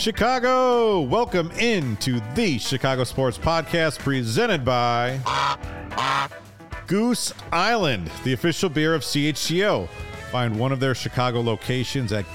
Chicago, welcome into the Chicago Sports Podcast presented by Goose Island, the official beer of CHGO. Find one of their Chicago locations at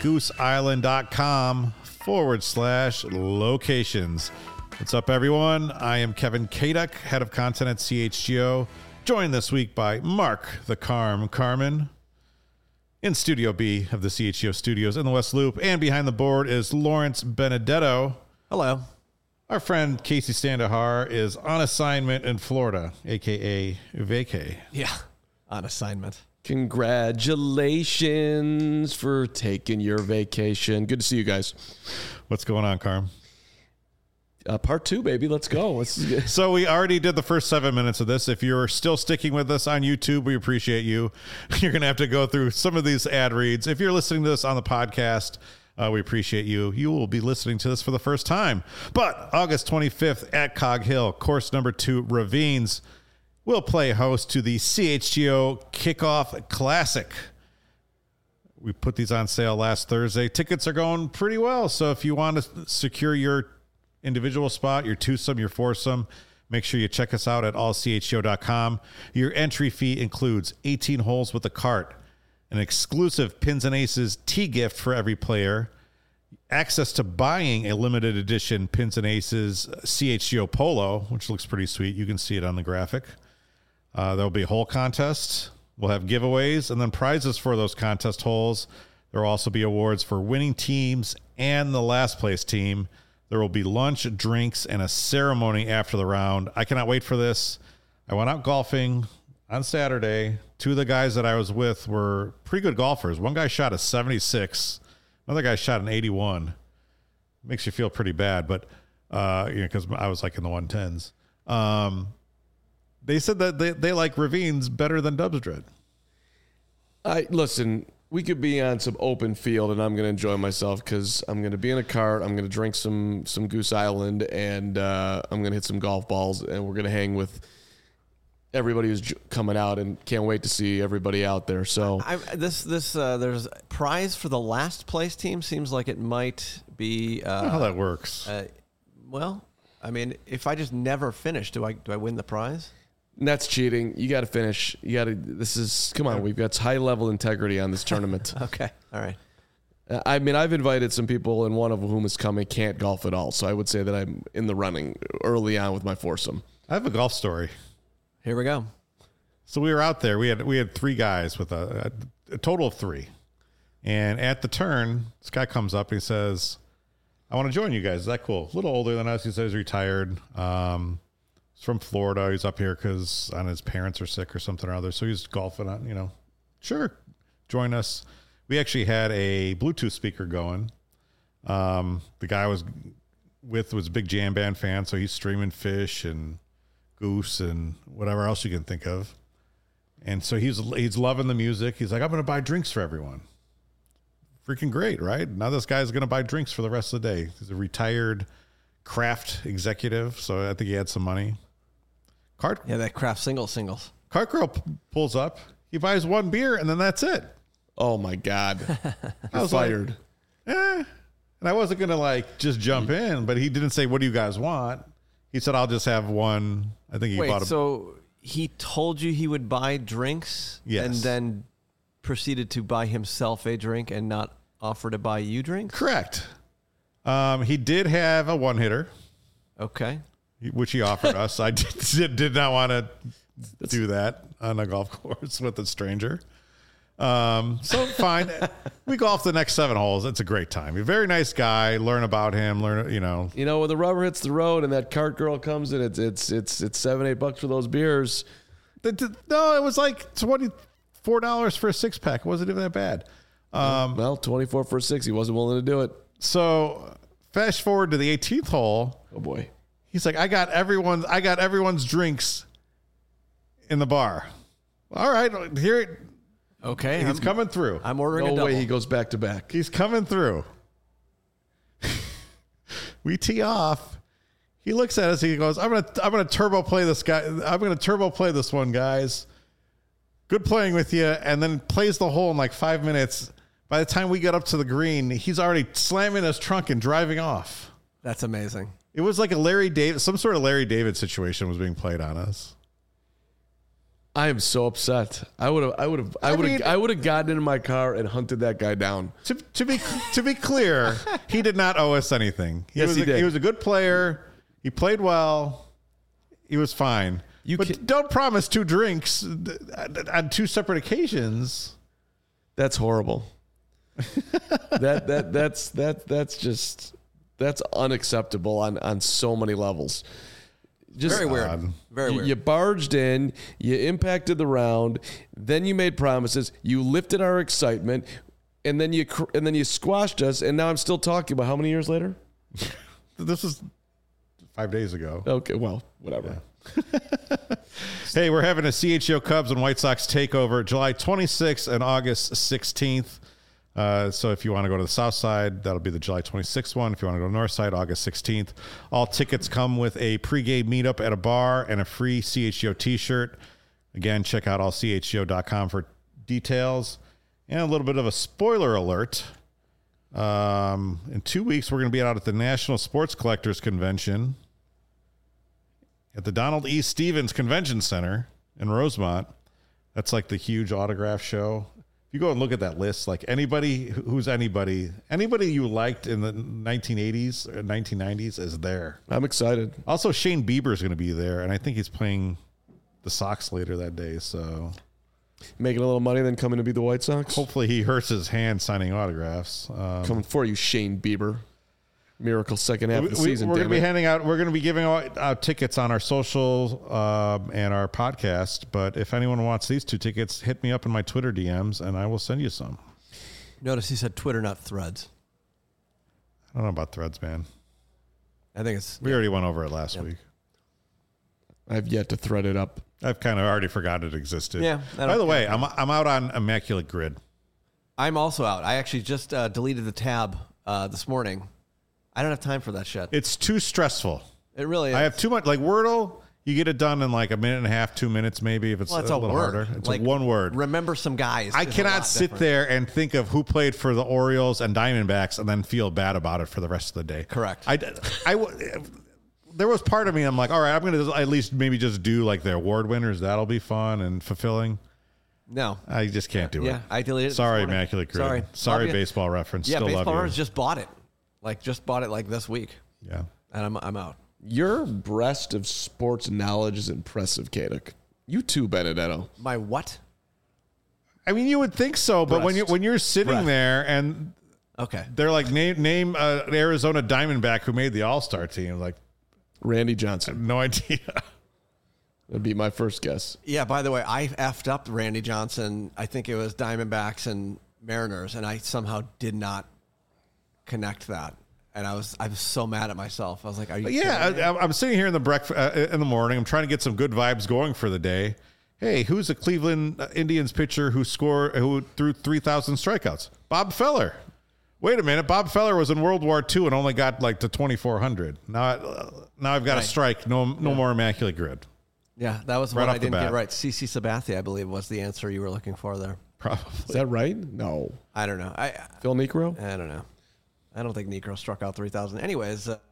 gooseisland.com/locations. What's up, everyone? I am Kevin Kaduk, head of content at CHGO, joined this week by Mark the Carmen. In Studio B of the CHGO studios in the West Loop, and behind the board is Lawrence Benedetto. Hello. Our friend Casey Standahar is on assignment in Florida, a.k.a. vacay. Yeah, on assignment. Congratulations for taking your vacation. Good to see you guys. What's going on, Carm? Part 2, baby. Let's go. So we already did the first 7 minutes of this. If you're still sticking with us on YouTube, we appreciate you. You're going to have to go through some of these ad reads. If you're listening to this on the podcast, we appreciate you. You will be listening to this for the first time. But August 25th at Cog Hill, course number 2, Ravines, will play host to the CHGO Kickoff Classic. We put these on sale last Thursday. Tickets are going pretty well. So if you want to secure your individual spot, your twosome, your foursome, make sure you check us out at allchgo.com. Your entry fee includes 18 holes with a cart, an exclusive Pins and Aces tee gift for every player, access to buying a limited edition Pins and Aces CHGO polo, which looks pretty sweet. You can see it on the graphic. There'll be a hole contest. We'll have giveaways and then prizes for those contest holes. There will also be awards for winning teams and the last place team. There will be lunch, drinks, and a ceremony after the round. I cannot wait for this. I went out golfing on Saturday. 2 of the guys that I was with were pretty good golfers. One guy shot a 76. Another guy shot an 81. Makes you feel pretty bad, but because I was like in the 110s. They said that they like Ravines better than Dubs Dread. Listen, we could be on some open field, and I'm going to enjoy myself because I'm going to be in a cart. I'm going to drink some Goose Island, and I'm going to hit some golf balls, and we're going to hang with everybody who's coming out, and can't wait to see everybody out there. So there's a prize for the last place team. Seems like it might be. I don't know how that works. Well, I mean, if I just never finish, do I win the prize? That's cheating. You got to finish. Come on. We've got high level integrity on this tournament. Okay. All right. I mean, I've invited some people, and one of whom is coming can't golf at all. So I would say that I'm in the running early on with my foursome. I have a golf story. Here we go. So we were out there. We had 3 guys with a total of 3. And at the turn, this guy comes up and he says, I want to join you guys. Is that cool? A little older than us. He says he's retired. He's from Florida. He's up here because his parents are sick or something or other. So he's golfing on, sure, join us. We actually had a Bluetooth speaker going. The guy I was with was a big jam band fan. So he's streaming Fish and Goose and whatever else you can think of. And so he's loving the music. He's like, I'm going to buy drinks for everyone. Freaking great, right? Now this guy's going to buy drinks for the rest of the day. He's a retired Kraft executive, so I think he had some money. Yeah, that Kraft singles. Cart girl pulls up. He buys 1 beer, and then that's it. Oh, my God. I was fired. Like, And I wasn't going to, just jump in, but he didn't say, what do you guys want? He said, I'll just have 1. I think he bought a... So he told you he would buy drinks? Yes. And then proceeded to buy himself a drink and not offer to buy you drinks? Correct. He did have a 1-hitter. Okay. Which he offered us. I did not want to do that on a golf course with a stranger. So fine. We golfed the next 7 holes. It's a great time. A very nice guy. Learn about him. When the rubber hits the road and that cart girl comes in, it's $7-8 for those beers. No, it was like $24 for a 6-pack. It wasn't even that bad. 24 for a 6. He wasn't willing to do it. So fast forward to the 18th hole. Oh boy. He's like, I got everyone's drinks in the bar. All right, here. Okay, he's coming through. I'm ordering a double. No way he goes back to back. He's coming through. We tee off. He looks at us. He goes, I'm gonna turbo play this guy. I'm gonna turbo play this one, guys. Good playing with you. And then plays the hole in like 5 minutes. By the time we got up to the green, he's already slamming his trunk and driving off. That's amazing. It was like some sort of Larry David situation was being played on us. I am so upset. I would have gotten into my car and hunted that guy down. To be clear, he did not owe us anything. He did. He was a good player. He played well. He was fine. But don't promise 2 drinks on 2 separate occasions. That's horrible. That's unacceptable on so many levels. Just Very weird. Very weird. You barged in, you impacted the round, then you made promises, you lifted our excitement, and then you squashed us. And now I'm still talking about how many years later? This was 5 days ago. Okay, well, whatever. Yeah. Hey, we're having a CHGO Cubs and White Sox takeover July 26th and August 16th. So if you want to go to the south side, that'll be the July 26th one. If you want to go to the north side, August 16th. All tickets come with a pregame meetup at a bar and a free CHGO t-shirt. Again, check out allchgo.com for details. And a little bit of a spoiler alert. In 2 weeks, we're going to be out at the National Sports Collectors Convention at the Donald E. Stevens Convention Center in Rosemont. That's like the huge autograph show. You go and look at that list, like anybody you liked in the 1980s or 1990s is there. I'm excited. Also, Shane Bieber is going to be there, and I think he's playing the Sox later that day. So making a little money, then coming to be the White Sox. Hopefully he hurts his hand signing autographs. Coming for you, Shane Bieber. Miracle second half of the season. We're going to be giving out tickets on our social and our podcast. But if anyone wants these 2 tickets, hit me up in my Twitter DMs and I will send you some. Notice he said Twitter, not Threads. I don't know about Threads, man. I think it's... We already went over it last week. I've yet to thread it up. I've kind of already forgot it existed. Yeah. By the way, I'm out on Immaculate Grid. I'm also out. I actually just deleted the tab this morning. I don't have time for that shit. It's too stressful. It really is. I have too much. Like Wordle, you get it done in like a minute and a half, 2 minutes maybe if it's a little harder. It's like one word. Remember some guys. I cannot sit there and think of who played for the Orioles and Diamondbacks and then feel bad about it for the rest of the day. Correct. There was part of me, I'm like, all right, I'm going to at least maybe just do like the award winners. That'll be fun and fulfilling. No. I just can't do it. Yeah, I deleted it. Sorry, Immaculate Grid. Sorry, Baseball Reference. Yeah, Still Baseball love you. Reference just bought it. Just bought it this week. Yeah. And I'm out. Your breast of sports knowledge is impressive, Kadek. You too, Benedetto. My what? I mean, you would think so, but when you're sitting there and they're like, name an Arizona Diamondback who made the All-Star team, like Randy Johnson. No idea. That'd be my first guess. Yeah, by the way, I effed up Randy Johnson. I think it was Diamondbacks and Mariners, and I somehow did not connect that. And I was so mad at myself. I was like, "Are you?" Yeah, I'm sitting here in the morning. I'm trying to get some good vibes going for the day. Hey, who's a Cleveland Indians pitcher who threw 3,000 strikeouts? Bob Feller. Wait a minute, Bob Feller was in World War II and only got like to 2,400. Now I've got a strike. No more Immaculate Grid. Yeah, that was right one off I didn't the bat. get right. CC Sabathia, I believe, was the answer you were looking for there. Probably. Is that right? No. I don't know. Phil Niekro? I don't know. I don't think Niekro struck out 3,000. Anyways, do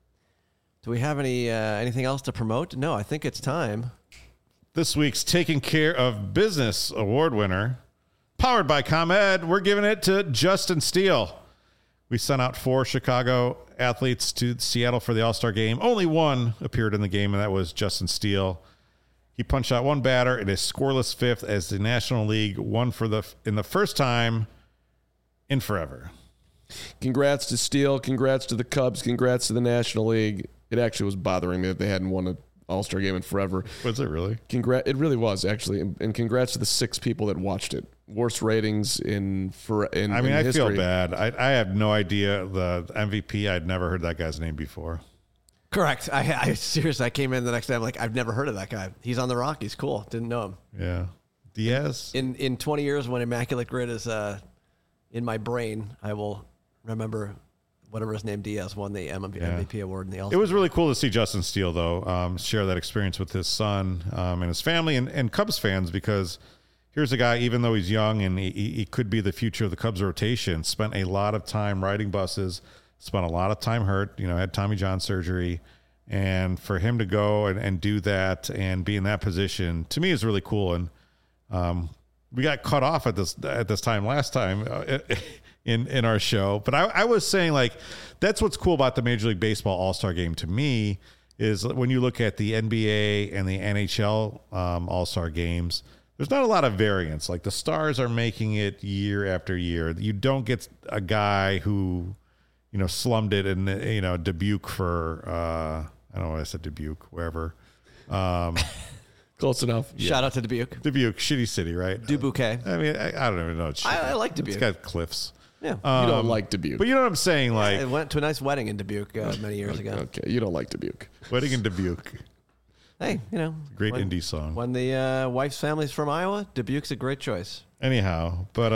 we have anything else to promote? No, I think it's time. This week's Taking Care of Business award winner, powered by ComEd, we're giving it to Justin Steele. We sent out 4 Chicago athletes to Seattle for the All-Star game. Only one appeared in the game, and that was Justin Steele. He punched out one batter in a scoreless fifth as the National League won in the first time in forever. Congrats to Steele. Congrats to the Cubs. Congrats to the National League. It actually was bothering me that they hadn't won an All-Star game in forever. Was it really? It really was, actually. And congrats to the 6 people that watched it. Worst ratings in history. I feel bad. I have no idea. The MVP, I'd never heard that guy's name before. Correct. I seriously, I came in the next day. I'm like, I've never heard of that guy. He's on the Rockies. Cool. Didn't know him. Yeah. Diaz? In 20 years, when Immaculate Grid is in my brain, I will remember whatever his name, Diaz, won the MVP award in the All-Star. It was really cool to see Justin Steele, though, share that experience with his son and his family and Cubs fans, because here's a guy, even though he's young and he could be the future of the Cubs rotation, spent a lot of time riding buses, spent a lot of time hurt, had Tommy John surgery. And for him to go and do that and be in that position, to me, is really cool. And we got cut off at this time last time in our show. But I was saying, like, that's what's cool about the Major League Baseball All-Star Game to me is when you look at the NBA and the NHL All-Star Games, there's not a lot of variance. Like, the stars are making it year after year. You don't get a guy who, slummed it in, Dubuque for, I don't know why I said Dubuque, wherever. Close enough. Shout out to Dubuque. Dubuque, shitty city, right? Dubuque. I mean, I don't even know. I like Dubuque. It's got cliffs. Yeah. You don't like Dubuque. But you know what I'm saying? Like, I went to a nice wedding in Dubuque many years ago. Okay, you don't like Dubuque. Wedding in Dubuque. Hey, Great indie song. When the wife's family's from Iowa, Dubuque's a great choice. Anyhow, but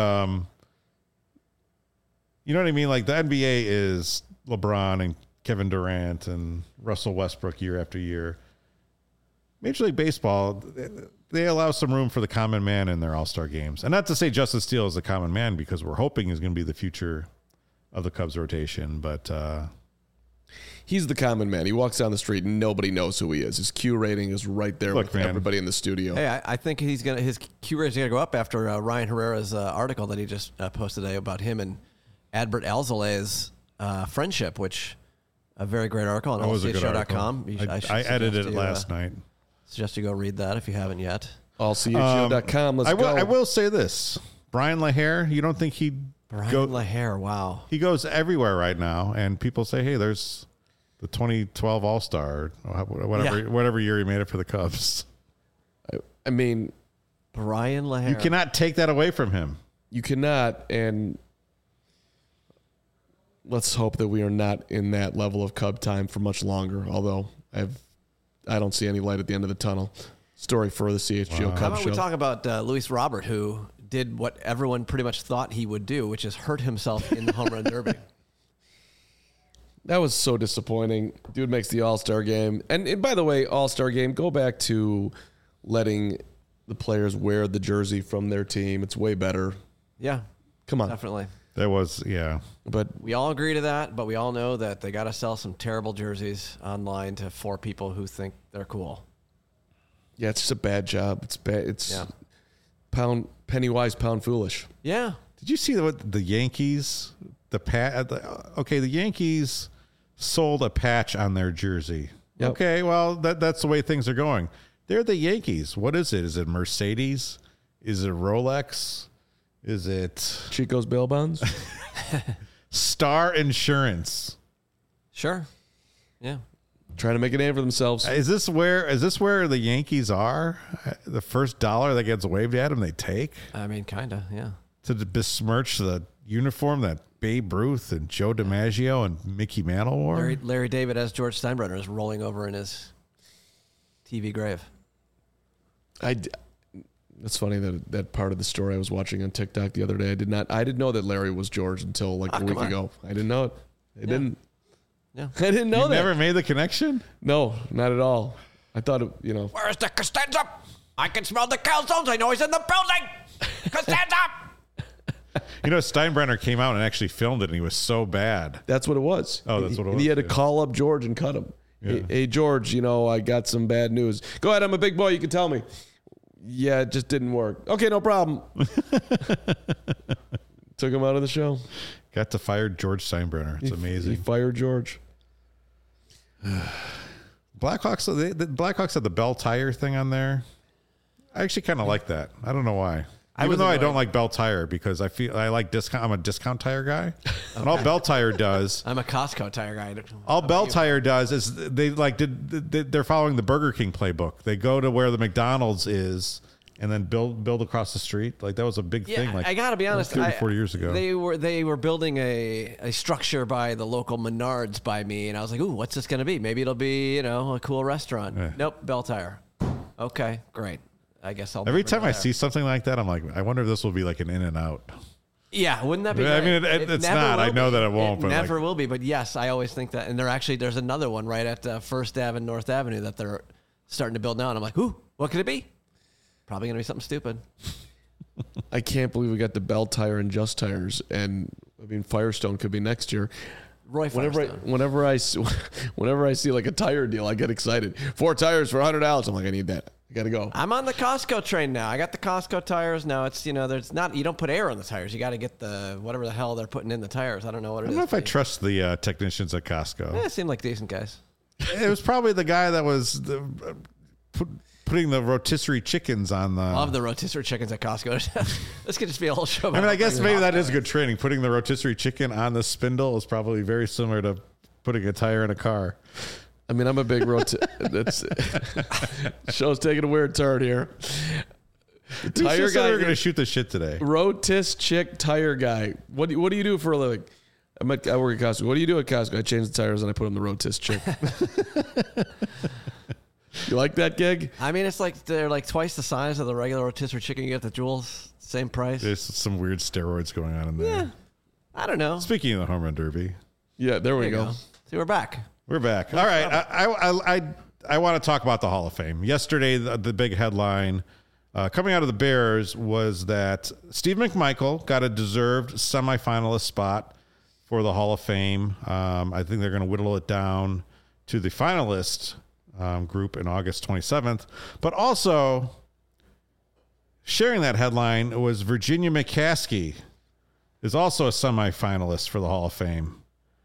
you know what I mean? Like, the NBA is LeBron and Kevin Durant and Russell Westbrook year after year. Major League Baseball, they allow some room for the common man in their All-Star games. And not to say Justin Steele is the common man, because we're hoping he's going to be the future of the Cubs rotation. But he's the common man. He walks down the street and nobody knows who he is. His Q rating is right there with everybody in the studio. Hey, I think his Q rating is going to go up after Ryan Herrera's article that he just posted today about him and Adbert Alzolay's friendship, which a very great article on allchshow.com. I edited it last night. Suggest you go read that if you haven't yet. allchshow.com. Let's go. I will say this. Brian LaHair, you don't think he'd Brian LaHair, wow. He goes everywhere right now, and people say, hey, there's the 2012 All-Star, whatever year he made it for the Cubs. I mean, Brian LaHair. You cannot take that away from him. You cannot, and let's hope that we are not in that level of Cub time for much longer, although I don't see any light at the end of the tunnel. Story for the CHGO Cub How about show. we talk about Luis Robert, who did what everyone pretty much thought he would do, which is hurt himself in the home run derby. That was so disappointing. Dude makes the All-Star game. And by the way, All-Star game, go back to letting the players wear the jersey from their team. It's way better. Yeah. Come on. Definitely. That was, yeah. But we all agree to that, but we all know that they got to sell some terrible jerseys online for people who think they're cool. yeah, it's just a bad job. It's bad. It's penny wise, pound foolish. Yeah. Did you see what the Yankees, the Yankees sold a patch on their jersey. Yep. Okay, well, that's the way things are going. They're the Yankees. What is it? Is it Mercedes? Is it Rolex? Is it Chico's bail bonds? Star Insurance? Sure. Yeah. Trying to make a name for themselves. Is this where the Yankees are? The first dollar that gets waved at them, they take? I mean, kind of, yeah. To besmirch the uniform that Babe Ruth and Joe DiMaggio and Mickey Mantle wore? Larry David as George Steinbrenner is rolling over in his TV grave. It's funny that part of the story I was watching on TikTok the other day. I didn't know that Larry was George until like a week ago. I didn't know it. I didn't. Yeah. I didn't know that. Never made the connection? No, not at all. I thought it, Where's the Costanza? I can smell the calzones. I know he's in the building. Costanza! Steinbrenner came out and actually filmed it, and he was so bad. That's what it was. Oh, that's what it was. He had to call up George and cut him. Yeah. Hey, George, I got some bad news. Go ahead, I'm a big boy. You can tell me. Yeah, it just didn't work. Okay, no problem. Took him out of the show. Got to fire George Steinbrenner. It's amazing. He fired George. Blackhawks. The Blackhawks had the Bell Tire thing on there. I actually kind of like that. I don't know why. Even though I don't like Bell Tire because I feel I like discount. I'm a discount tire guy, and all Bell Tire does. I'm a Costco tire guy. All Bell Tire does is they're following the Burger King playbook. They go to where the McDonald's is, and then build across the street. Like that was a big thing. Like I gotta be honest, 30, 40 years ago, they were building a structure by the local Menards by me, and I was like, ooh, what's this gonna be? Maybe it'll be a cool restaurant. Yeah. Nope, Bell Tire. Okay, great. I guess I'll. Every time I see something like that, I'm like, I wonder if this will be like an In-N-Out. Yeah, wouldn't that be? I great? mean, it's not. I know that it won't. It never will be. But yes, I always think that. And there's another one right at First Ave and North Avenue that they're starting to build now. And I'm like, ooh, what could it be? Probably going to be something stupid. I can't believe we got the Bell Tire and Just Tires, and I mean Firestone could be next year. Roy Firestone. Whenever I see like a tire deal, I get excited. 4 tires for $100. I'm like, I need that. I gotta go. I'm on the Costco train now. I got the Costco tires now. It's there's not, you don't put air on the tires. You got to get the whatever the hell they're putting in the tires. I don't know what it is. I don't know if I trust the technicians at Costco. They seem like decent guys. It was probably the guy that was putting the rotisserie chickens on the. Love the rotisserie chickens at Costco. This could just be a whole show. I mean, I guess maybe that is good training. Putting the rotisserie chicken on the spindle is probably very similar to putting a tire in a car. I mean, I'm a big that's show's taking a weird turn here. The tire guy. We're gonna shoot the shit today. Rotis chick tire guy. What do you do for a living? I work at Costco. What do you do at Costco? I change the tires and I put on the Rotis chick. You like that gig? I mean, it's like they're like twice the size of the regular rotisserie chicken you get at the Jewels. Same price. There's some weird steroids going on in there. Yeah, I don't know. Speaking of the home run derby. Yeah, there we go. See, we're back. We're back. All right. I want to talk about the Hall of Fame. Yesterday, the big headline coming out of the Bears was that Steve McMichael got a deserved semifinalist spot for the Hall of Fame. I think they're going to whittle it down to the finalist group in August 27th. But also sharing that headline was Virginia McCaskey is also a semifinalist for the Hall of Fame.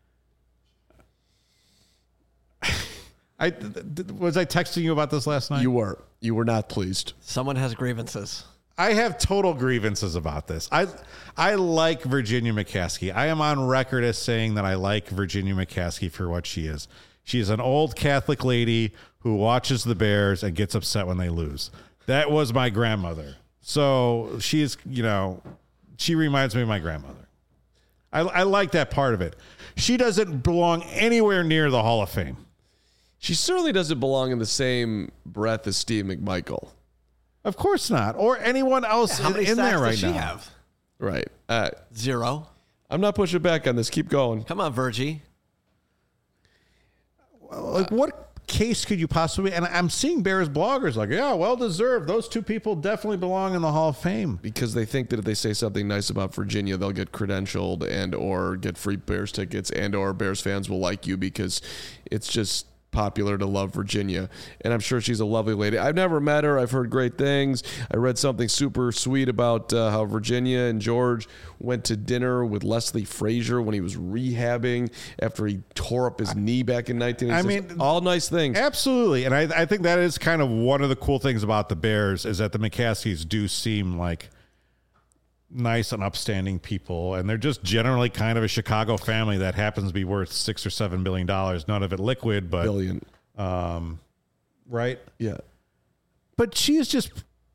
Was I texting you about this last night? You were not pleased. Someone has grievances. I have total grievances about this. I like Virginia McCaskey. I am on record as saying that I like Virginia McCaskey for what she is. She is an old Catholic lady who watches the Bears and gets upset when they lose. That was my grandmother. So she's, she reminds me of my grandmother. I like that part of it. She doesn't belong anywhere near the Hall of Fame. She certainly doesn't belong in the same breath as Steve McMichael. Of course not. Or anyone else How many in sacks there right does she now. have? Right. 0. I'm not pushing back on this. Keep going. Come on, Virgie. Like, what case could you possibly... And I'm seeing Bears bloggers like, yeah, well deserved. Those two people definitely belong in the Hall of Fame. Because they think that if they say something nice about Virginia, they'll get credentialed and or get free Bears tickets and or Bears fans will like you because it's just popular to love Virginia. And I'm sure she's a lovely lady. I've never met her. I've heard great things. I read something super sweet about how Virginia and George went to dinner with Leslie Frazier when he was rehabbing after he tore up his knee back in 1986. I mean, all nice things. Absolutely. And I think that is kind of one of the cool things about the Bears is that the McCaskeys do seem like nice and upstanding people, and they're just generally kind of a Chicago family that happens to be worth $6 or $7 billion. None of it liquid, but billion. Right? Yeah. But she's just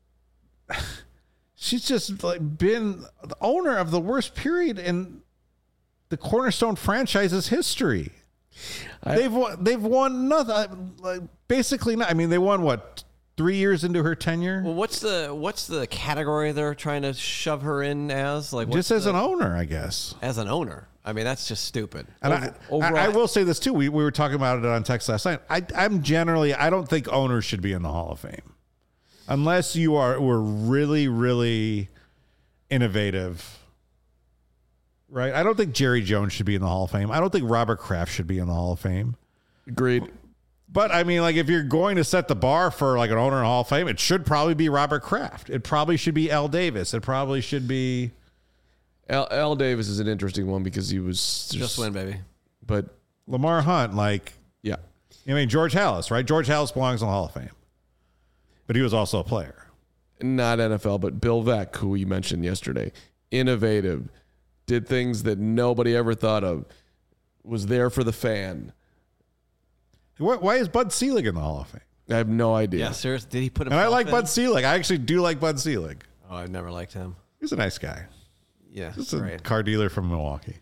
like been the owner of the worst period in the Cornerstone franchise's history. They've won nothing. Like, basically not. I mean, they won what? 3 years into her tenure? Well, what's the category they're trying to shove her in as? Like, just as an owner, I guess. As an owner. I mean, that's just stupid. And I will say this too. We were talking about it on text last night. I don't think owners should be in the Hall of Fame unless were really, really innovative. Right? I don't think Jerry Jones should be in the Hall of Fame. I don't think Robert Kraft should be in the Hall of Fame. Agreed. But I mean, like, if you're going to set the bar for like an owner in the Hall of Fame, it should probably be Robert Kraft. It probably should be Al Davis. It probably should be Al Davis is an interesting one because he was just win, baby. But Lamar Hunt, like, yeah, I mean George Halas, right? George Halas belongs in the Hall of Fame, but he was also a player, not NFL. But Bill Veeck, who we mentioned yesterday, innovative, did things that nobody ever thought of, was there for the fan. Why is Bud Selig in the Hall of Fame? I have no idea. Yeah, seriously. Did he put him? And I like Bud Selig. I actually do like Bud Selig. Oh, I've never liked him. He's a nice guy. Yeah, just a car dealer from Milwaukee.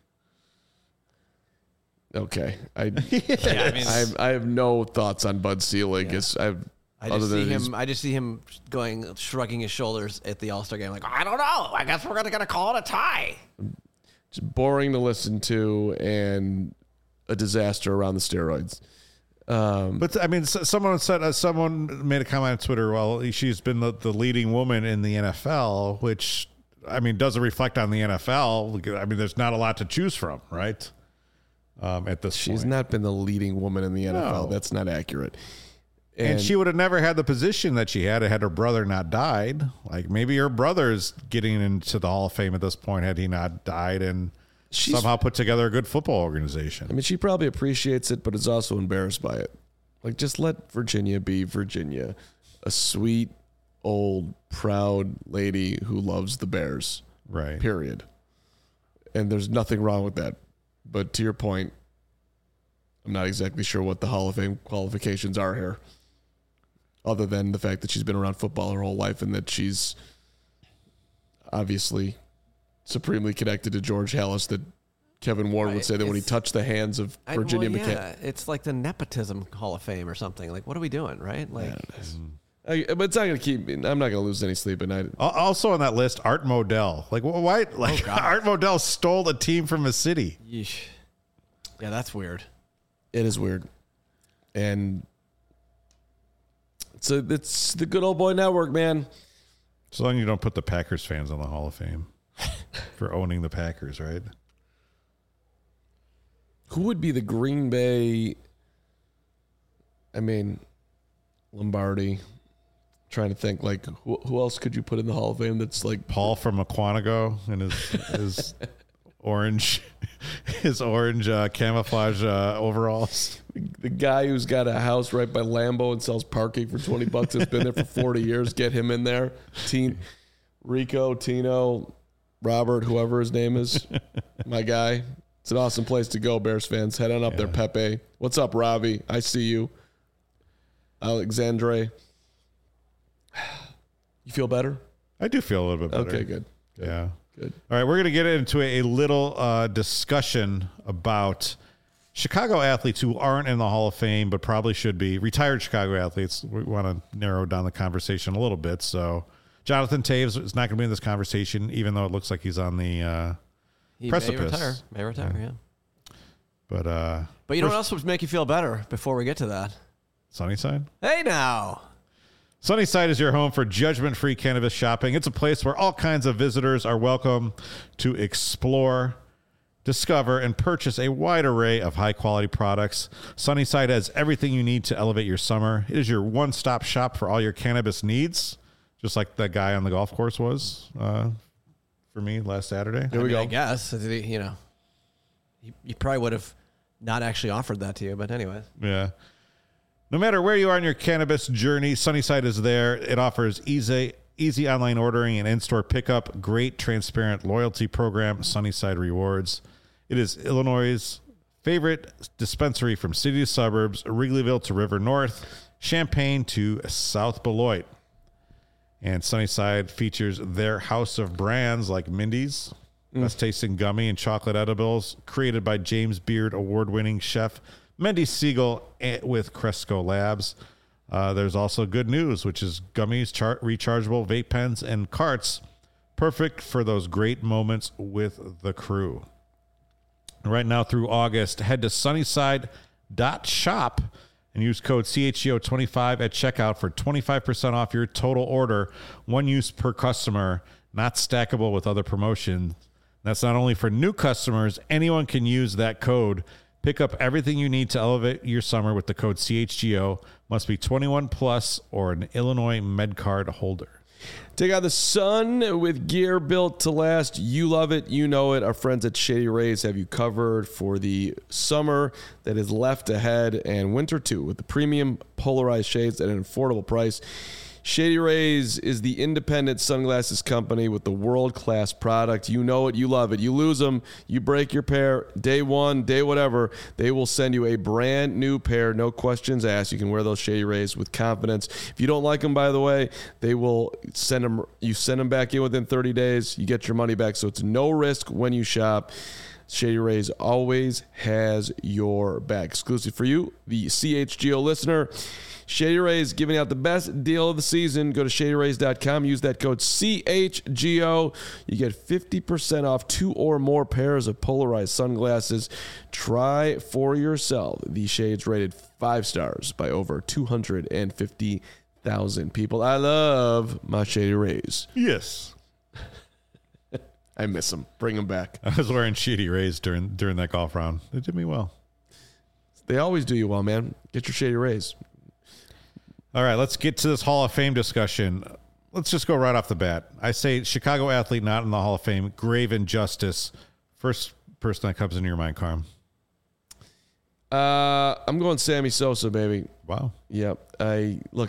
Okay, I have no thoughts on Bud Selig. Yeah. I just see him shrugging his shoulders at the All-Star game, like, I don't know. I guess we're gonna call it a tie. Just boring to listen to and a disaster around the steroids. But I mean, someone made a comment on Twitter. Well, she's been the leading woman in the NFL, which I mean doesn't reflect on the NFL. I mean, there's not a lot to choose from, right? At this She's point. not been the leading woman in the NFL. No. That's not accurate. And she would have never had the position that she had her brother not died. Like maybe her brother's getting into the Hall of Fame at this point had he not died and somehow put together a good football organization. I mean, she probably appreciates it, but is also embarrassed by it. Like, just let Virginia be Virginia, a sweet, old, proud lady who loves the Bears. Right. Period. And there's nothing wrong with that. But to your point, I'm not exactly sure what the Hall of Fame qualifications are here, other than the fact that she's been around football her whole life and that she's obviously supremely connected to George Halas, that Kevin Ward would say that when he touched the hands of Virginia McCain. Yeah, it's like the nepotism Hall of Fame or something. Like, what are we doing, right? Like, but it's not going to keep me. I'm not going to lose any sleep at night. Also on that list, Art Modell. Like, why? Like, Art Modell stole a team from a city. Yeesh. Yeah, that's weird. It is weird. And so it's the good old boy network, man. So long as you don't put the Packers fans on the Hall of Fame for owning the Packers, right? Who would be the Green Bay? I mean, Lombardi. Trying to think, like, who else could you put in the Hall of Fame that's like Paul from McQuanago and his orange camouflage overalls. The guy who's got a house right by Lambeau and sells parking for $20. Has been there for 40 years. Get him in there. Rico, Tino, Robert, whoever his name is, my guy. It's an awesome place to go, Bears fans. Head on up there, Pepe. What's up, Ravi? I see you. Alexandre. You feel better? I do feel a little bit better. Okay, good. Yeah. Good. All right, we're going to get into a little discussion about Chicago athletes who aren't in the Hall of Fame but probably should be. Retired Chicago athletes. We want to narrow down the conversation a little bit. So Jonathan Toews is not going to be in this conversation, even though it looks like he's on the precipice. May retire, yeah. But you know what else would make you feel better before we get to that? Sunnyside? Hey, now. Sunnyside is your home for judgment-free cannabis shopping. It's a place where all kinds of visitors are welcome to explore, discover, and purchase a wide array of high-quality products. Sunnyside has everything you need to elevate your summer. It is your one-stop shop for all your cannabis needs, just like that guy on the golf course was for me last Saturday. Here we go. I guess, you know, he probably would have not actually offered that to you, but anyways. Yeah. No matter where you are on your cannabis journey, Sunnyside is there. It offers easy online ordering and in-store pickup, great transparent loyalty program, Sunnyside Rewards. It is Illinois' favorite dispensary from city to suburbs, Wrigleyville to River North, Champaign to South Beloit. And Sunnyside features their house of brands like Mindy's, best tasting gummy and chocolate edibles, created by James Beard award-winning chef Mendy Siegel with Cresco Labs. There's also good news, which is gummies, rechargeable vape pens, and carts, perfect for those great moments with the crew. Right now through August, head to sunnyside.shop and use code CHGO25 at checkout for 25% off your total order, one use per customer, not stackable with other promotions. That's not only for new customers, anyone can use that code. Pick up everything you need to elevate your summer with the code CHGO. Must be 21 plus or an Illinois MedCard holder. Take out the sun with gear built to last. You love it. You know it. Our friends at Shady Rays have you covered for the summer that is left ahead and winter too, with the premium polarized shades at an affordable price. Shady Rays is the independent sunglasses company with the world-class product. You know it. You love it. You lose them. You break your pair. Day one, day whatever. They will send you a brand new pair. No questions asked. You can wear those Shady Rays with confidence. If you don't like them, by the way, they will send them. You send them back in within 30 days. You get your money back. So it's no risk when you shop. Shady Rays always has your back. Exclusive for you, the CHGO listener. Shady Rays giving out the best deal of the season. Go to shadyrays.com. Use that code CHGO. You get 50% off 2 or more pairs of polarized sunglasses. Try for yourself. The shades rated 5 stars by over 250,000 people. I love my Shady Rays. Yes. I miss them. Bring them back. I was wearing Shady Rays during that golf round. They did me well. They always do you well, man. Get your Shady Rays. All right, let's get to this Hall of Fame discussion. Let's just go right off the bat. I say Chicago athlete not in the Hall of Fame, grave injustice. First person that comes into your mind, Carm. I'm going Sammy Sosa, baby. Wow. Yep. With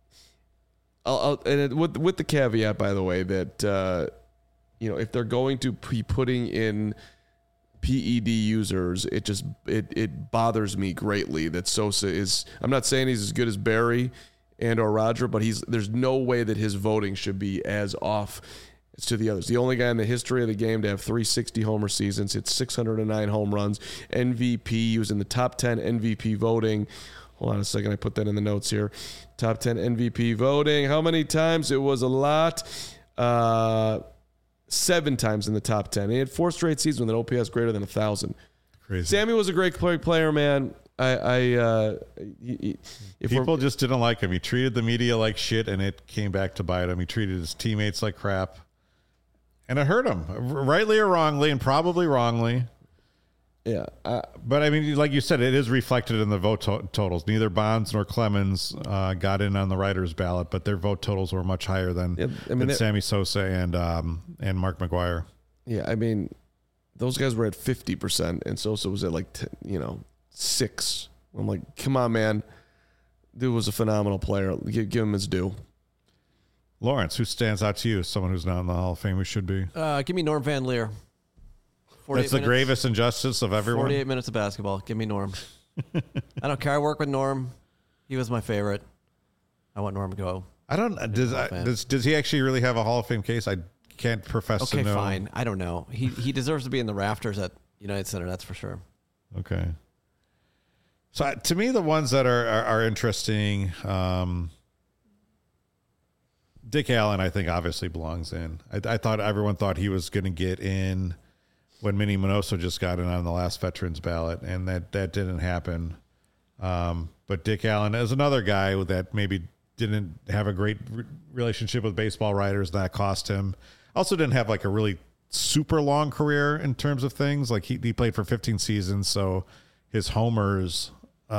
the caveat, by the way, that if they're going to be putting in PED users, it bothers me greatly that Sosa is. I'm not saying he's as good as Barry and or Roger, but there's no way that his voting should be as off as to the others. The only guy in the history of the game to have 360 homer seasons, hit 609 home runs, MVP. He was in the top 10 MVP voting. Hold on a second, I put that in the notes here. Top 10 MVP voting. How many times? It was a lot. 7 times in the top 10. He had 4 straight seasons with an OPS greater than 1,000. Crazy. Sammy was a great player, man. People just didn't like him. He treated the media like shit, and it came back to bite him. He treated his teammates like crap, and it hurt him, rightly or wrongly, and probably wrongly. Yeah. But, I mean, like you said, it is reflected in the vote totals. Neither Bonds nor Clemens got in on the writers' ballot, but their vote totals were much higher than Sammy Sosa and Mark McGwire. Yeah, I mean, those guys were at 50%, and Sosa was at 6. I'm like, come on, man. Dude was a phenomenal player. Give him his due. Lawrence, who stands out to you as someone who's not in the Hall of Fame who should be? Give me Norm Van Leer. That's the gravest injustice of everyone. 48 minutes of basketball. Give me Norm. I don't care. I work with Norm. He was my favorite. I want Norm to go. I don't. Does he actually really have a Hall of Fame case? I can't profess to know. Okay, fine. I don't know. He deserves to be in the rafters at United Center. That's for sure. Okay. So to me, the ones that are interesting, Dick Allen, I think obviously belongs in. I thought everyone thought he was going to get in when Minnie Minoso just got in on the last veterans ballot, and that didn't happen. But Dick Allen is another guy that maybe didn't have a great relationship with baseball writers. That cost him. Also didn't have a really super long career in terms of things. Like he played for 15 seasons, so his homers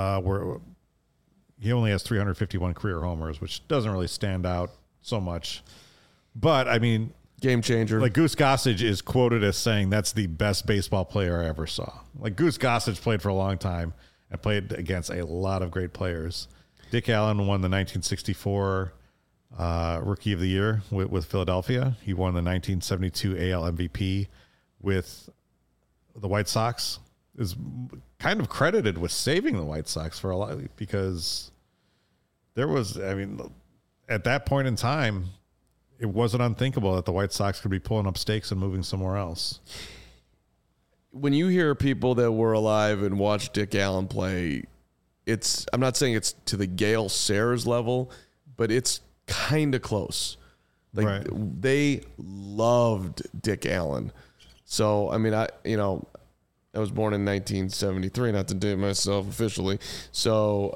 he only has 351 career homers, which doesn't really stand out so much. But I mean, game changer. Like Goose Gossage is quoted as saying that's the best baseball player I ever saw. Like Goose Gossage played for a long time and played against a lot of great players. Dick Allen won the 1964 Rookie of the Year with Philadelphia. He won the 1972 AL MVP with the White Sox. Is kind of credited with saving the White Sox for a lot, because there was, I mean, at that point in time, it wasn't unthinkable that the White Sox could be pulling up stakes and moving somewhere else. When you hear people that were alive and watched Dick Allen play, I'm not saying it's to the Gale Sayers level, but it's kind of close. Right. They loved Dick Allen. So, I mean, I was born in 1973, not to date myself officially. So,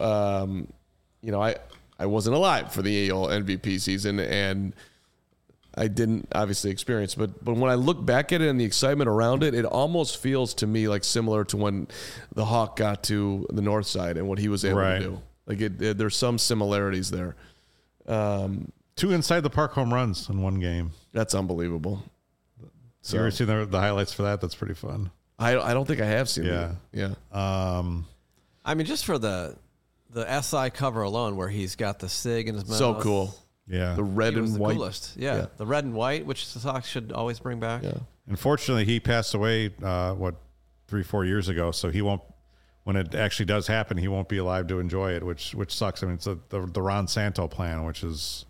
I wasn't alive for the AL MVP season, and I didn't obviously experience. But when I look back at it and the excitement around it, it almost feels to me like similar to when the Hawk got to the North Side and what he was able to do. Like there's some similarities there. 2 inside the park home runs in one game. That's unbelievable. So you ever seen the highlights for that? That's pretty fun. I don't think I have seen that. Yeah. I mean, just for the SI cover alone, where he's got the SIG in his mouth. So cool. Yeah. The red and white. Coolest. Yeah. The red and white, which the Sox should always bring back. Yeah. Unfortunately, he passed away, 3-4 years ago. So he won't, when it actually does happen, he won't be alive to enjoy it, which sucks. I mean, it's the Ron Santo plan, which is,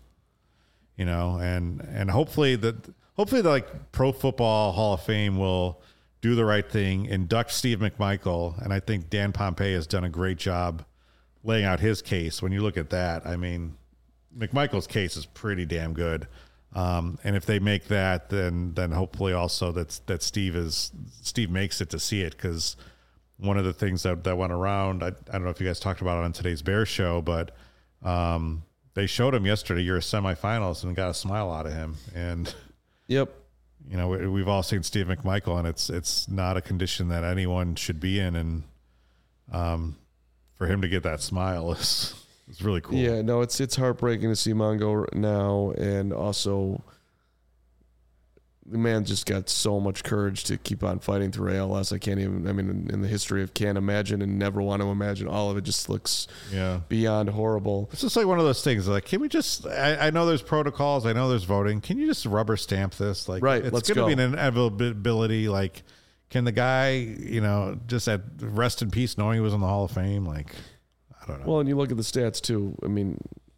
and hopefully the Pro Football Hall of Fame will do the right thing, induct Steve McMichael, and I think Dan Pompei has done a great job laying out his case. When you look at that, I mean, McMichael's case is pretty damn good. And if they make that, then hopefully also that Steve makes it to see it, because one of the things that went around, I don't know if you guys talked about it on today's Bears show, but they showed him yesterday, you're a semifinalist, and got a smile out of him. And yep, you know, we've all seen Steve McMichael, and it's not a condition that anyone should be in, and for him to get that smile is really cool. Yeah, no, it's heartbreaking to see Mongo now, and also the man just got so much courage to keep on fighting through ALS. I can't even, in the history of can't imagine and never want to imagine, all of it just looks beyond horrible. It's just like one of those things, like, can we just, I know there's protocols, I know there's voting, can you just rubber stamp this? Like, right, it's going to be an inevitability. Like, can the guy, you know, just rest in peace knowing he was in the Hall of Fame? Like, I don't know. Well, and you look at the stats too. I mean,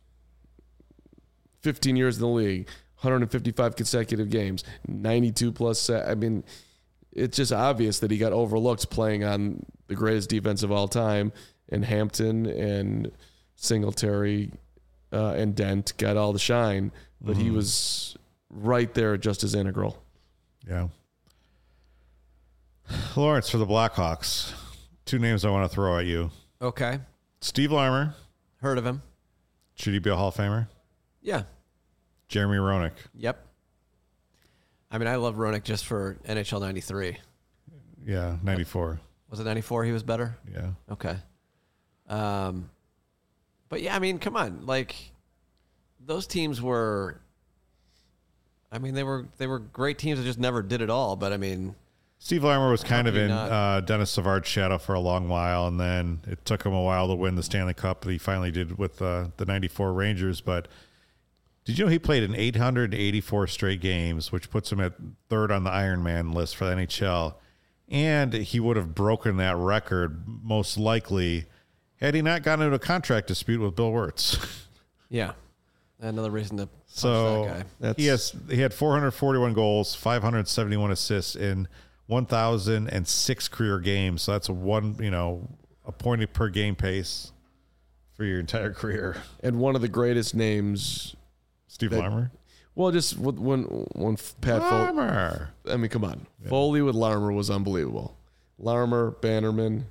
15 years in the league, 155 consecutive games, 92 plus. I mean, it's just obvious that he got overlooked playing on the greatest defense of all time, and Hampton and Singletary and Dent got all the shine, but he was right there just as integral. Yeah. Lawrence, for the Blackhawks, 2 names I want to throw at you. Okay. Steve Larmer. Heard of him. Should he be a Hall of Famer? Yeah. Jeremy Roenick. Yep. I mean, I love Roenick just for NHL 93. Yeah, 94. Was it 94 he was better? Yeah. Okay. But yeah, I mean, come on. Like, those teams were, I mean, they were great teams that just never did it all, but I mean, Steve Larmer was kind of in Dennis Savard's shadow for a long while, and then it took him a while to win the Stanley Cup that he finally did with the 94 Rangers. But did you know he played in 884 straight games, which puts him at 3rd on the Iron Man list for the NHL? And he would have broken that record most likely had he not gotten into a contract dispute with Bill Wirtz. Yeah. Another reason to punch that guy. He had 441 goals, 571 assists in 1,006 career games. So that's a point per game pace for your entire career. And one of the greatest names, Steve Larmer. Well, just when Pat Larmer. Foley. I mean, come on. Yeah. Foley with Larmer was unbelievable. Larmer, Bannerman.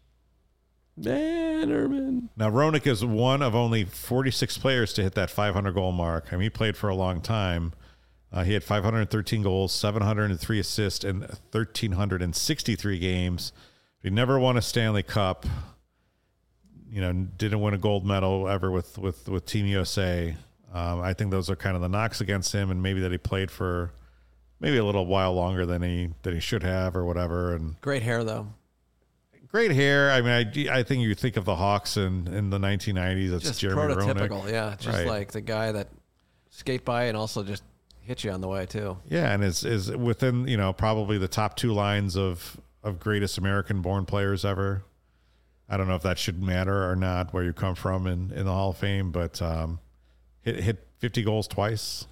Now, Roenick is one of only 46 players to hit that 500 goal mark. I mean, he played for a long time. He had 513 goals, 703 assists in 1,363 games. He never won a Stanley Cup. You know, didn't win a gold medal ever with Team USA. I think those are kind of the knocks against him, and maybe that he played for maybe a little while longer than he should have or whatever. And great hair, though. Great hair. I mean, I think you think of the Hawks in the 1990s. It's just Jeremy prototypical, Roenick. Yeah. Just like the guy that skate by and also just hit you on the way too. Yeah, and is within probably the top 2 lines of greatest American-born players ever. I don't know if that should matter or not, where you come from in the Hall of Fame, but hit 50 goals twice.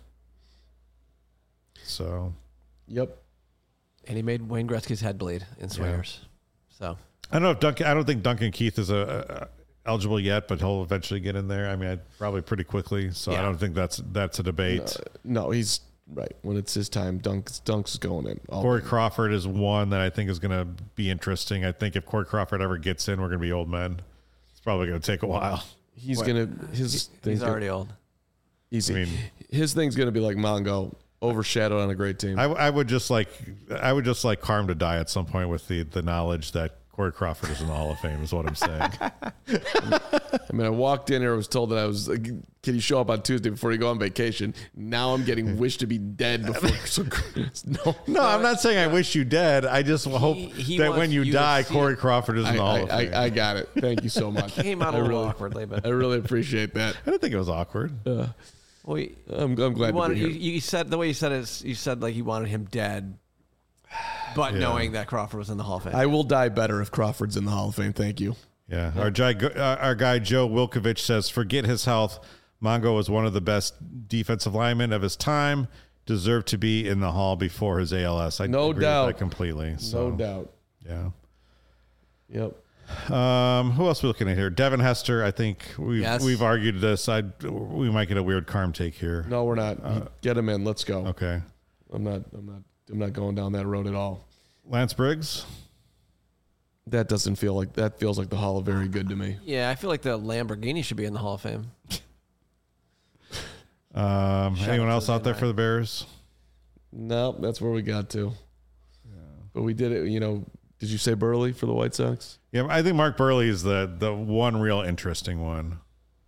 So, yep. And he made Wayne Gretzky's head bleed in Swingers. Yeah. So I don't know if I don't think Duncan Keith is eligible yet, but he'll eventually get in there. I mean, probably pretty quickly. So I don't think that's a debate. No, he's right. When it's his time, Dunk's going in. Corey Crawford is one that I think is going to be interesting. I think if Corey Crawford ever gets in, we're going to be old men. It's probably going to take a while. He's already old. Easy. I mean, his thing's going to be like Mongo, overshadowed on a great team. I would just like Carm to die at some point with the knowledge that Corey Crawford is in the Hall of Fame is what I'm saying. I mean, I walked in here, I was told that I was like, can you show up on Tuesday before you go on vacation? Now I'm getting wished to be dead before. No, I'm not saying I wish you dead. I just hope that when you die, Corey Crawford is in the Hall of Fame. I got it. Thank you so much. Came out a little awkwardly, but I really appreciate that. I didn't think it was awkward. Well, I'm glad to be here. You said the way you said it. You said like you wanted him dead, but knowing that Crawford was in the Hall of Fame. I will die better if Crawford's in the Hall of Fame. Thank you. Yeah. Our guy Joe Wilkovich says, forget his health. Mongo was one of the best defensive linemen of his time. deserved to be in the Hall before his ALS. I no agree doubt. with that completely. So, no doubt. Yeah. Yep. Who else are we looking at here? Devin Hester. I think we've argued this. We might get a weird Carm take here. No, we're not. Get him in. Let's go. Okay. I'm not going down that road at all. Lance Briggs. That doesn't feel like that. Feels like the Hall of Very Good to me. Yeah, I feel like the Lamborghini should be in the Hall of Fame. Anyone else out there for the Bears? No, that's where we got to. Yeah. But we did it. Did you say Burley for the White Sox? Yeah, I think Mark Burley is the one real interesting one.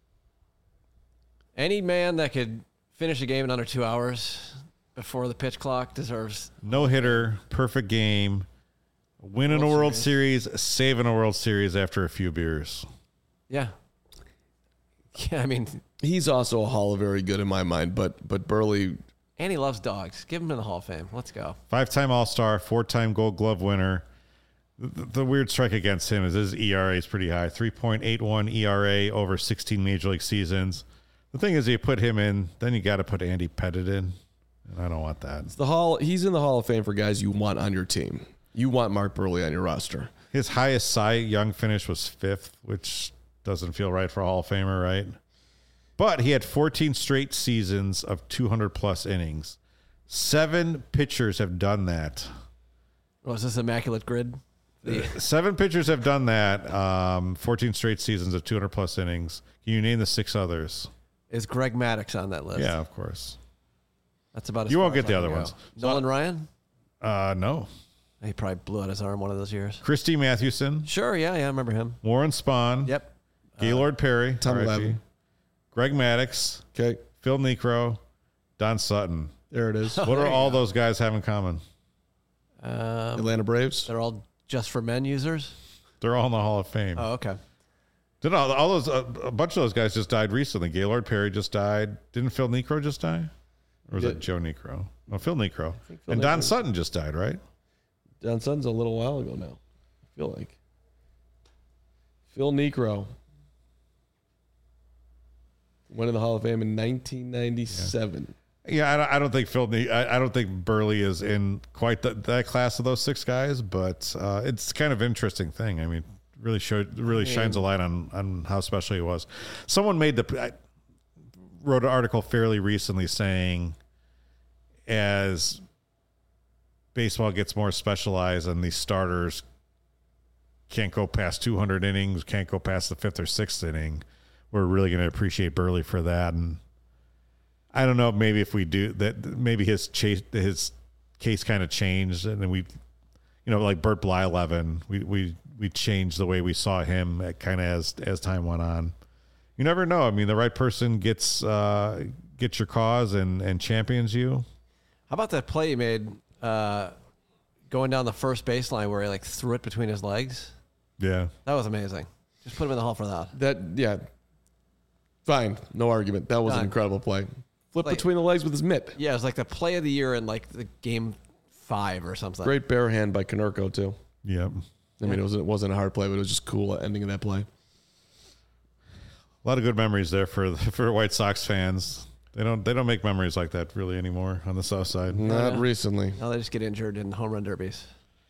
Any man that could finish a game in under 2 hours before the pitch clock deserves no hitter, perfect game, winning a World Series, saving a World Series after a few beers. Yeah. Yeah, I mean, he's also a Hall of Very Good in my mind, but Burley. And he loves dogs. Give him in the Hall of Fame. Let's go. 5-time All-Star, 4-time Gold Glove winner. The weird strike against him is his ERA is pretty high, 3.81 ERA over 16 Major League seasons. The thing is, you put him in, then you got to put Andy Pettitte in, and I don't want that. It's the Hall. He's in the Hall of Fame for guys you want on your team. You want Mark Burley on your roster. His highest Cy Young finish was 5th, which doesn't feel right for a Hall of Famer, right? But he had 14 straight seasons of 200-plus innings. 7 pitchers have done that. Was this Immaculate Grid? 7 pitchers have done that. 14 straight seasons of 200-plus innings. Can you name the 6 others? Is Greg Maddux on that list? Yeah, of course. That's about as you far won't get as the I other can go. ones. Nolan Ryan? No. He probably blew out his arm one of those years. Christy Mathewson. Sure, yeah, I remember him. Warren Spahn. Yep. Gaylord Perry. Tom Levin. Greg Maddux. Okay. Phil Niekro. Don Sutton. There it is. What do all those guys have in common? Atlanta Braves. They're all just for men users? They're all in the Hall of Fame. Oh, okay. Did all those a bunch of those guys just died recently? Gaylord Perry just died. Didn't Phil Niekro just die? Or was it Joe Niekro? No, Phil Niekro. And Don Sutton just died, right? Don Sutton's a little while ago now. I feel like. Phil Niekro went in the Hall of Fame in 1997. Yeah, I don't think I don't think Burley is in quite that class of those 6 guys, but it's kind of interesting thing. I mean, really shines a light on how special he was. Someone wrote an article fairly recently saying, as baseball gets more specialized and these starters can't go past 200 innings, can't go past the 5th or 6th inning, we're really going to appreciate Burley for that. And I don't know, maybe if we do that, maybe his case kind of changed, and then we, like Bert Blyleven, we changed the way we saw him kind of as time went on. You never know. I mean, the right person gets your cause and champions you. How about that play he made going down the first baseline where he threw it between his legs? Yeah, that was amazing. Just put him in the Hall for that. Fine, no argument. That was an incredible play. Flip between the legs with his mitt. Yeah, it was like the play of the year in the game 5 or something. Great bare hand by Konerko too. Yep. I mean, it wasn't a hard play, but it was just cool ending of that play. A lot of good memories there for White Sox fans. They don't make memories like that really anymore on the South Side. Not recently. Now they just get injured in home run derbies.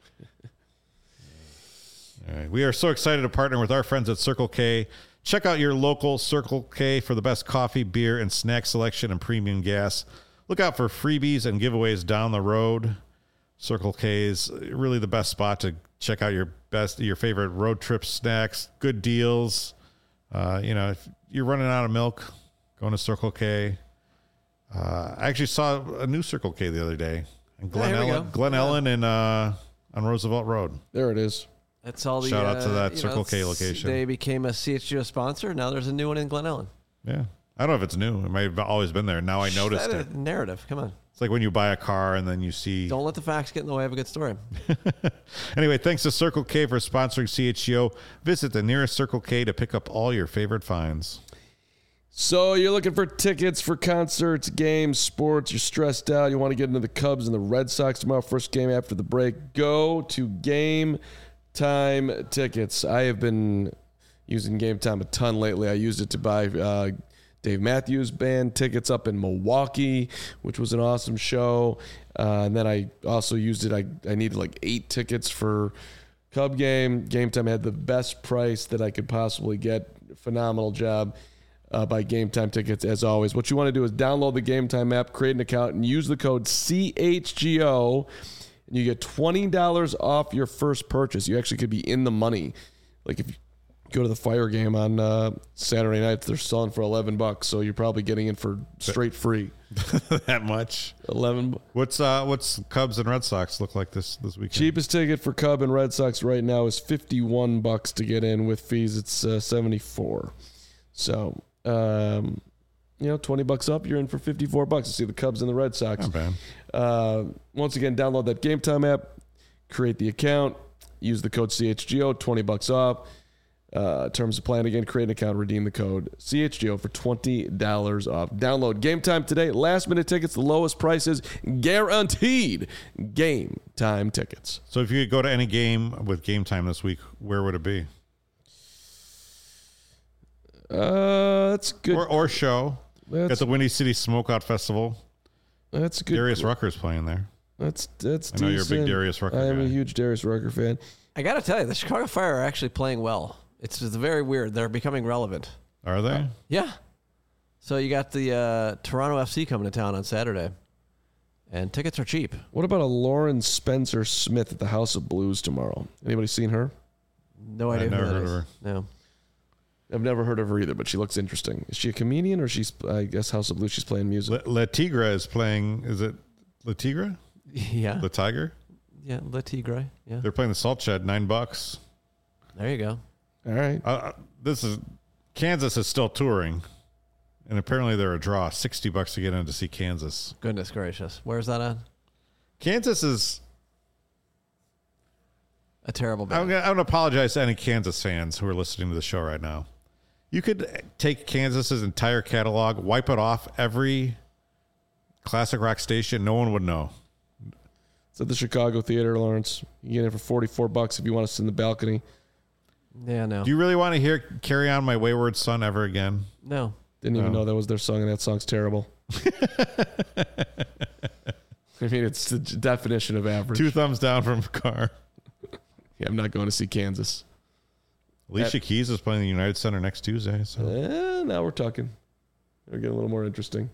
All right. We are so excited to partner with our friends at Circle K. Check out your local Circle K for the best coffee, beer, and snack selection and premium gas. Look out for freebies and giveaways down the road. Circle K is really the best spot to check out your favorite road trip snacks, good deals. If you're running out of milk, going to Circle K. I actually saw a new Circle K the other day in Glen Ellen and on Roosevelt Road. There it is. That's all. Shout out to that Circle K location. They became a CHGO sponsor. Now there's a new one in Glen Ellen. Yeah, I don't know if it's new. It might have always been there. Now I noticed it. Narrative. Come on. It's like when you buy a car and then you see. Don't let the facts get in the way of a good story. Anyway, thanks to Circle K for sponsoring CHGO. Visit the nearest Circle K to pick up all your favorite finds. So you're looking for tickets for concerts, games, sports. You're stressed out. You want to get into the Cubs and the Red Sox tomorrow. First game after the break. Go to Game Time tickets. I have been using Game Time a ton lately. I used it to buy Dave Matthews Band tickets up in Milwaukee, which was an awesome show. And then I also used it. I needed like 8 tickets for Cub game. Game Time had the best price that I could possibly get. Phenomenal job by Game Time Tickets, as always. What you want to do is download the Game Time app, create an account, and use the code CHGO, and you get $20 off your first purchase. You actually could be in the money. Like if you go to the Fire game on Saturday night, they're selling for $11, so you're probably getting in for straight free. That much? 11. What's Cubs and Red Sox look like this weekend? Cheapest ticket for Cub and Red Sox right now is $51 to get in. With fees, it's $74. So, $20 up, you're in for $54 to see the Cubs and the Red Sox. Not bad. Once again, download that Game Time app, create the account, use the code CHGO, $20 off. Terms of plan, again, create an account, redeem the code CHGO for $20 off. Download Game Time today. Last minute tickets, the lowest prices, guaranteed. Game Time tickets. So if you could go to any game with Game Time this week, where would it be? That's good. Or show. At the Windy City Smokeout Festival. That's good. Darius Rucker's playing there. That's I know decent. you're a big Darius Rucker I am guy. a huge Darius Rucker fan. I got to tell you, the Chicago Fire are actually playing well. It's very weird. They're becoming relevant. Are they? Yeah. So you got the Toronto FC coming to town on Saturday, and tickets are cheap. What about a Lauren Spencer Smith at the House of Blues tomorrow? Anybody seen her? No idea I've never who that heard is. of her. No. I've never heard of her either, but she looks interesting. Is she a comedian, or she's, I guess, House of Blues, she's playing music? Le Tigre is playing, is it Le Tigre? Yeah. Le Tiger? Yeah, Le Tigre. Yeah. They're playing the Salt Shed, $9. There you go. All right. Kansas is still touring, and apparently they're a draw. $60 to get in to see Kansas. Goodness gracious. Where's that at? Kansas is A terrible I'm band. going to apologize to any Kansas fans who are listening to the show right now. You could take Kansas's entire catalog, wipe it off every classic rock station. No one would know. It's at the Chicago Theater, Lawrence. You get in for $44 if you want to sit in the balcony. Yeah, no. Do you really want to hear Carry On My Wayward Son ever again? No. Didn't even know that was their song, and that song's terrible. I mean, it's the definition of average. 2 thumbs down from Carr. Yeah, I'm not going to see Kansas. Alicia Keys is playing the United Center next Tuesday. So Now we're talking. We're getting a little more interesting.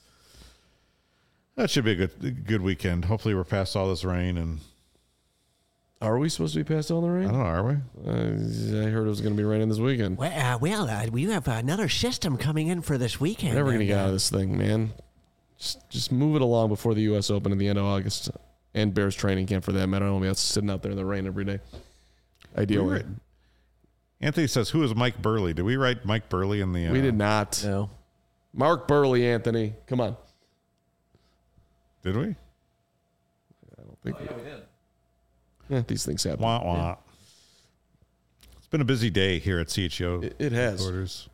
that should be a good weekend. Hopefully we're past all this rain. And Are we supposed to be past all the I rain? don't know, are we? I heard it was going to be raining this weekend. We have another system coming in for this weekend. We're never going to get out of this thing, man. Just move it along before the U.S. Open at the end of August. And Bears training camp for that matter. I don't want to be sitting out there in the rain every day. Ideally. Anthony says, who is Mike Burley? Did we write Mike Burley in the... We did not. No. Mark Burley, Anthony. Come on. Did we? I don't think we did. Yeah, these things happen. Wah, wah. Yeah. It's been a busy day here at CHO. It has. Headquarters.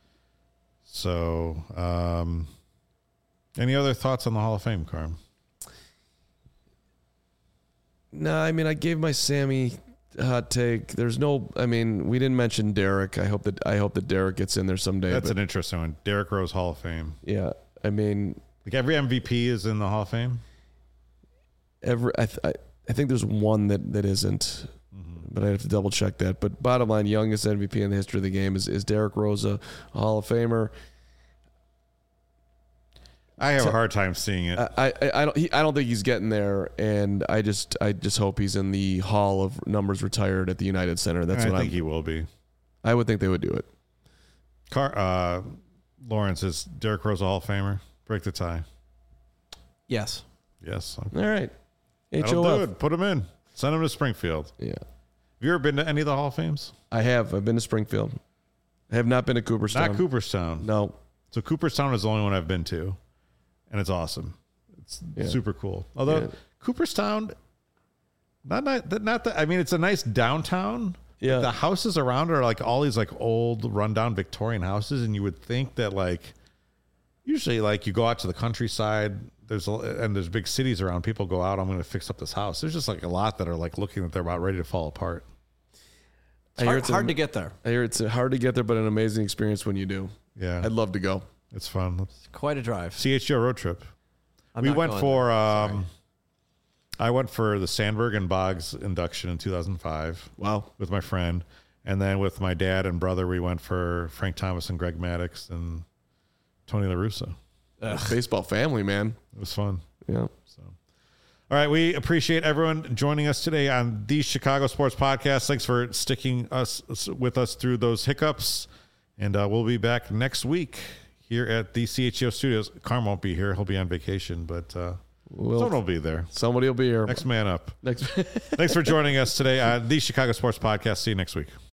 So, any other thoughts on the Hall of Fame, Carm? No, I mean, I gave my Sammy hot take. There's no, I mean, we didn't mention Derek. I hope that Derek gets in there someday. That's an interesting one. Derek Rose Hall of Fame. Yeah, I mean, like every MVP is in the Hall of Fame. I think there's one that isn't, but I have to double check that. But bottom line, youngest MVP in the history of the game is Derek Rose a Hall of Famer. I have a hard time seeing it. I don't think he's getting there, and I just hope he's in the Hall of Numbers Retired at the United Center. That's what I think he will be. I would think they would do it. Lawrence, is Derek Rose a Hall of Famer? Break the tie. Yes. Yes. All right. That'll do HOF. it. Put him in. Send him to Springfield. Yeah. Have you ever been to any of the Hall of Fames? I have. I've been to Springfield. I have not been to Cooperstown. Not Cooperstown. No. So Cooperstown is the only one I've been to, and it's awesome. It's super cool. Although Cooperstown, not that. I mean, it's a nice downtown. Yeah. The houses around are like all these like old rundown Victorian houses, and you would think that like usually like you go out to the countryside. There's big cities around. People go out. I'm going to fix up this house. There's just like a lot that are like looking that they're about ready to fall apart. It's hard to get there. I hear it's hard to get there, but an amazing experience when you do. Yeah. I'd love to go. It's fun. It's quite a drive. CHGO road trip. I'm we not went going for there. I went for the Sandberg and Boggs induction in 2005. Wow. With my friend. And then with my dad and brother, we went for Frank Thomas and Greg Maddux and Tony La Russa. Baseball family, man. It was fun. Yeah. So, all right. We appreciate everyone joining us today on the Chicago Sports Podcast. Thanks for sticking with us through those hiccups. And we'll be back next week here at the CHGO Studios. Carm won't be here. He'll be on vacation, but someone will be there. Somebody will be here. Next man up. Thanks for joining us today on the Chicago Sports Podcast. See you next week.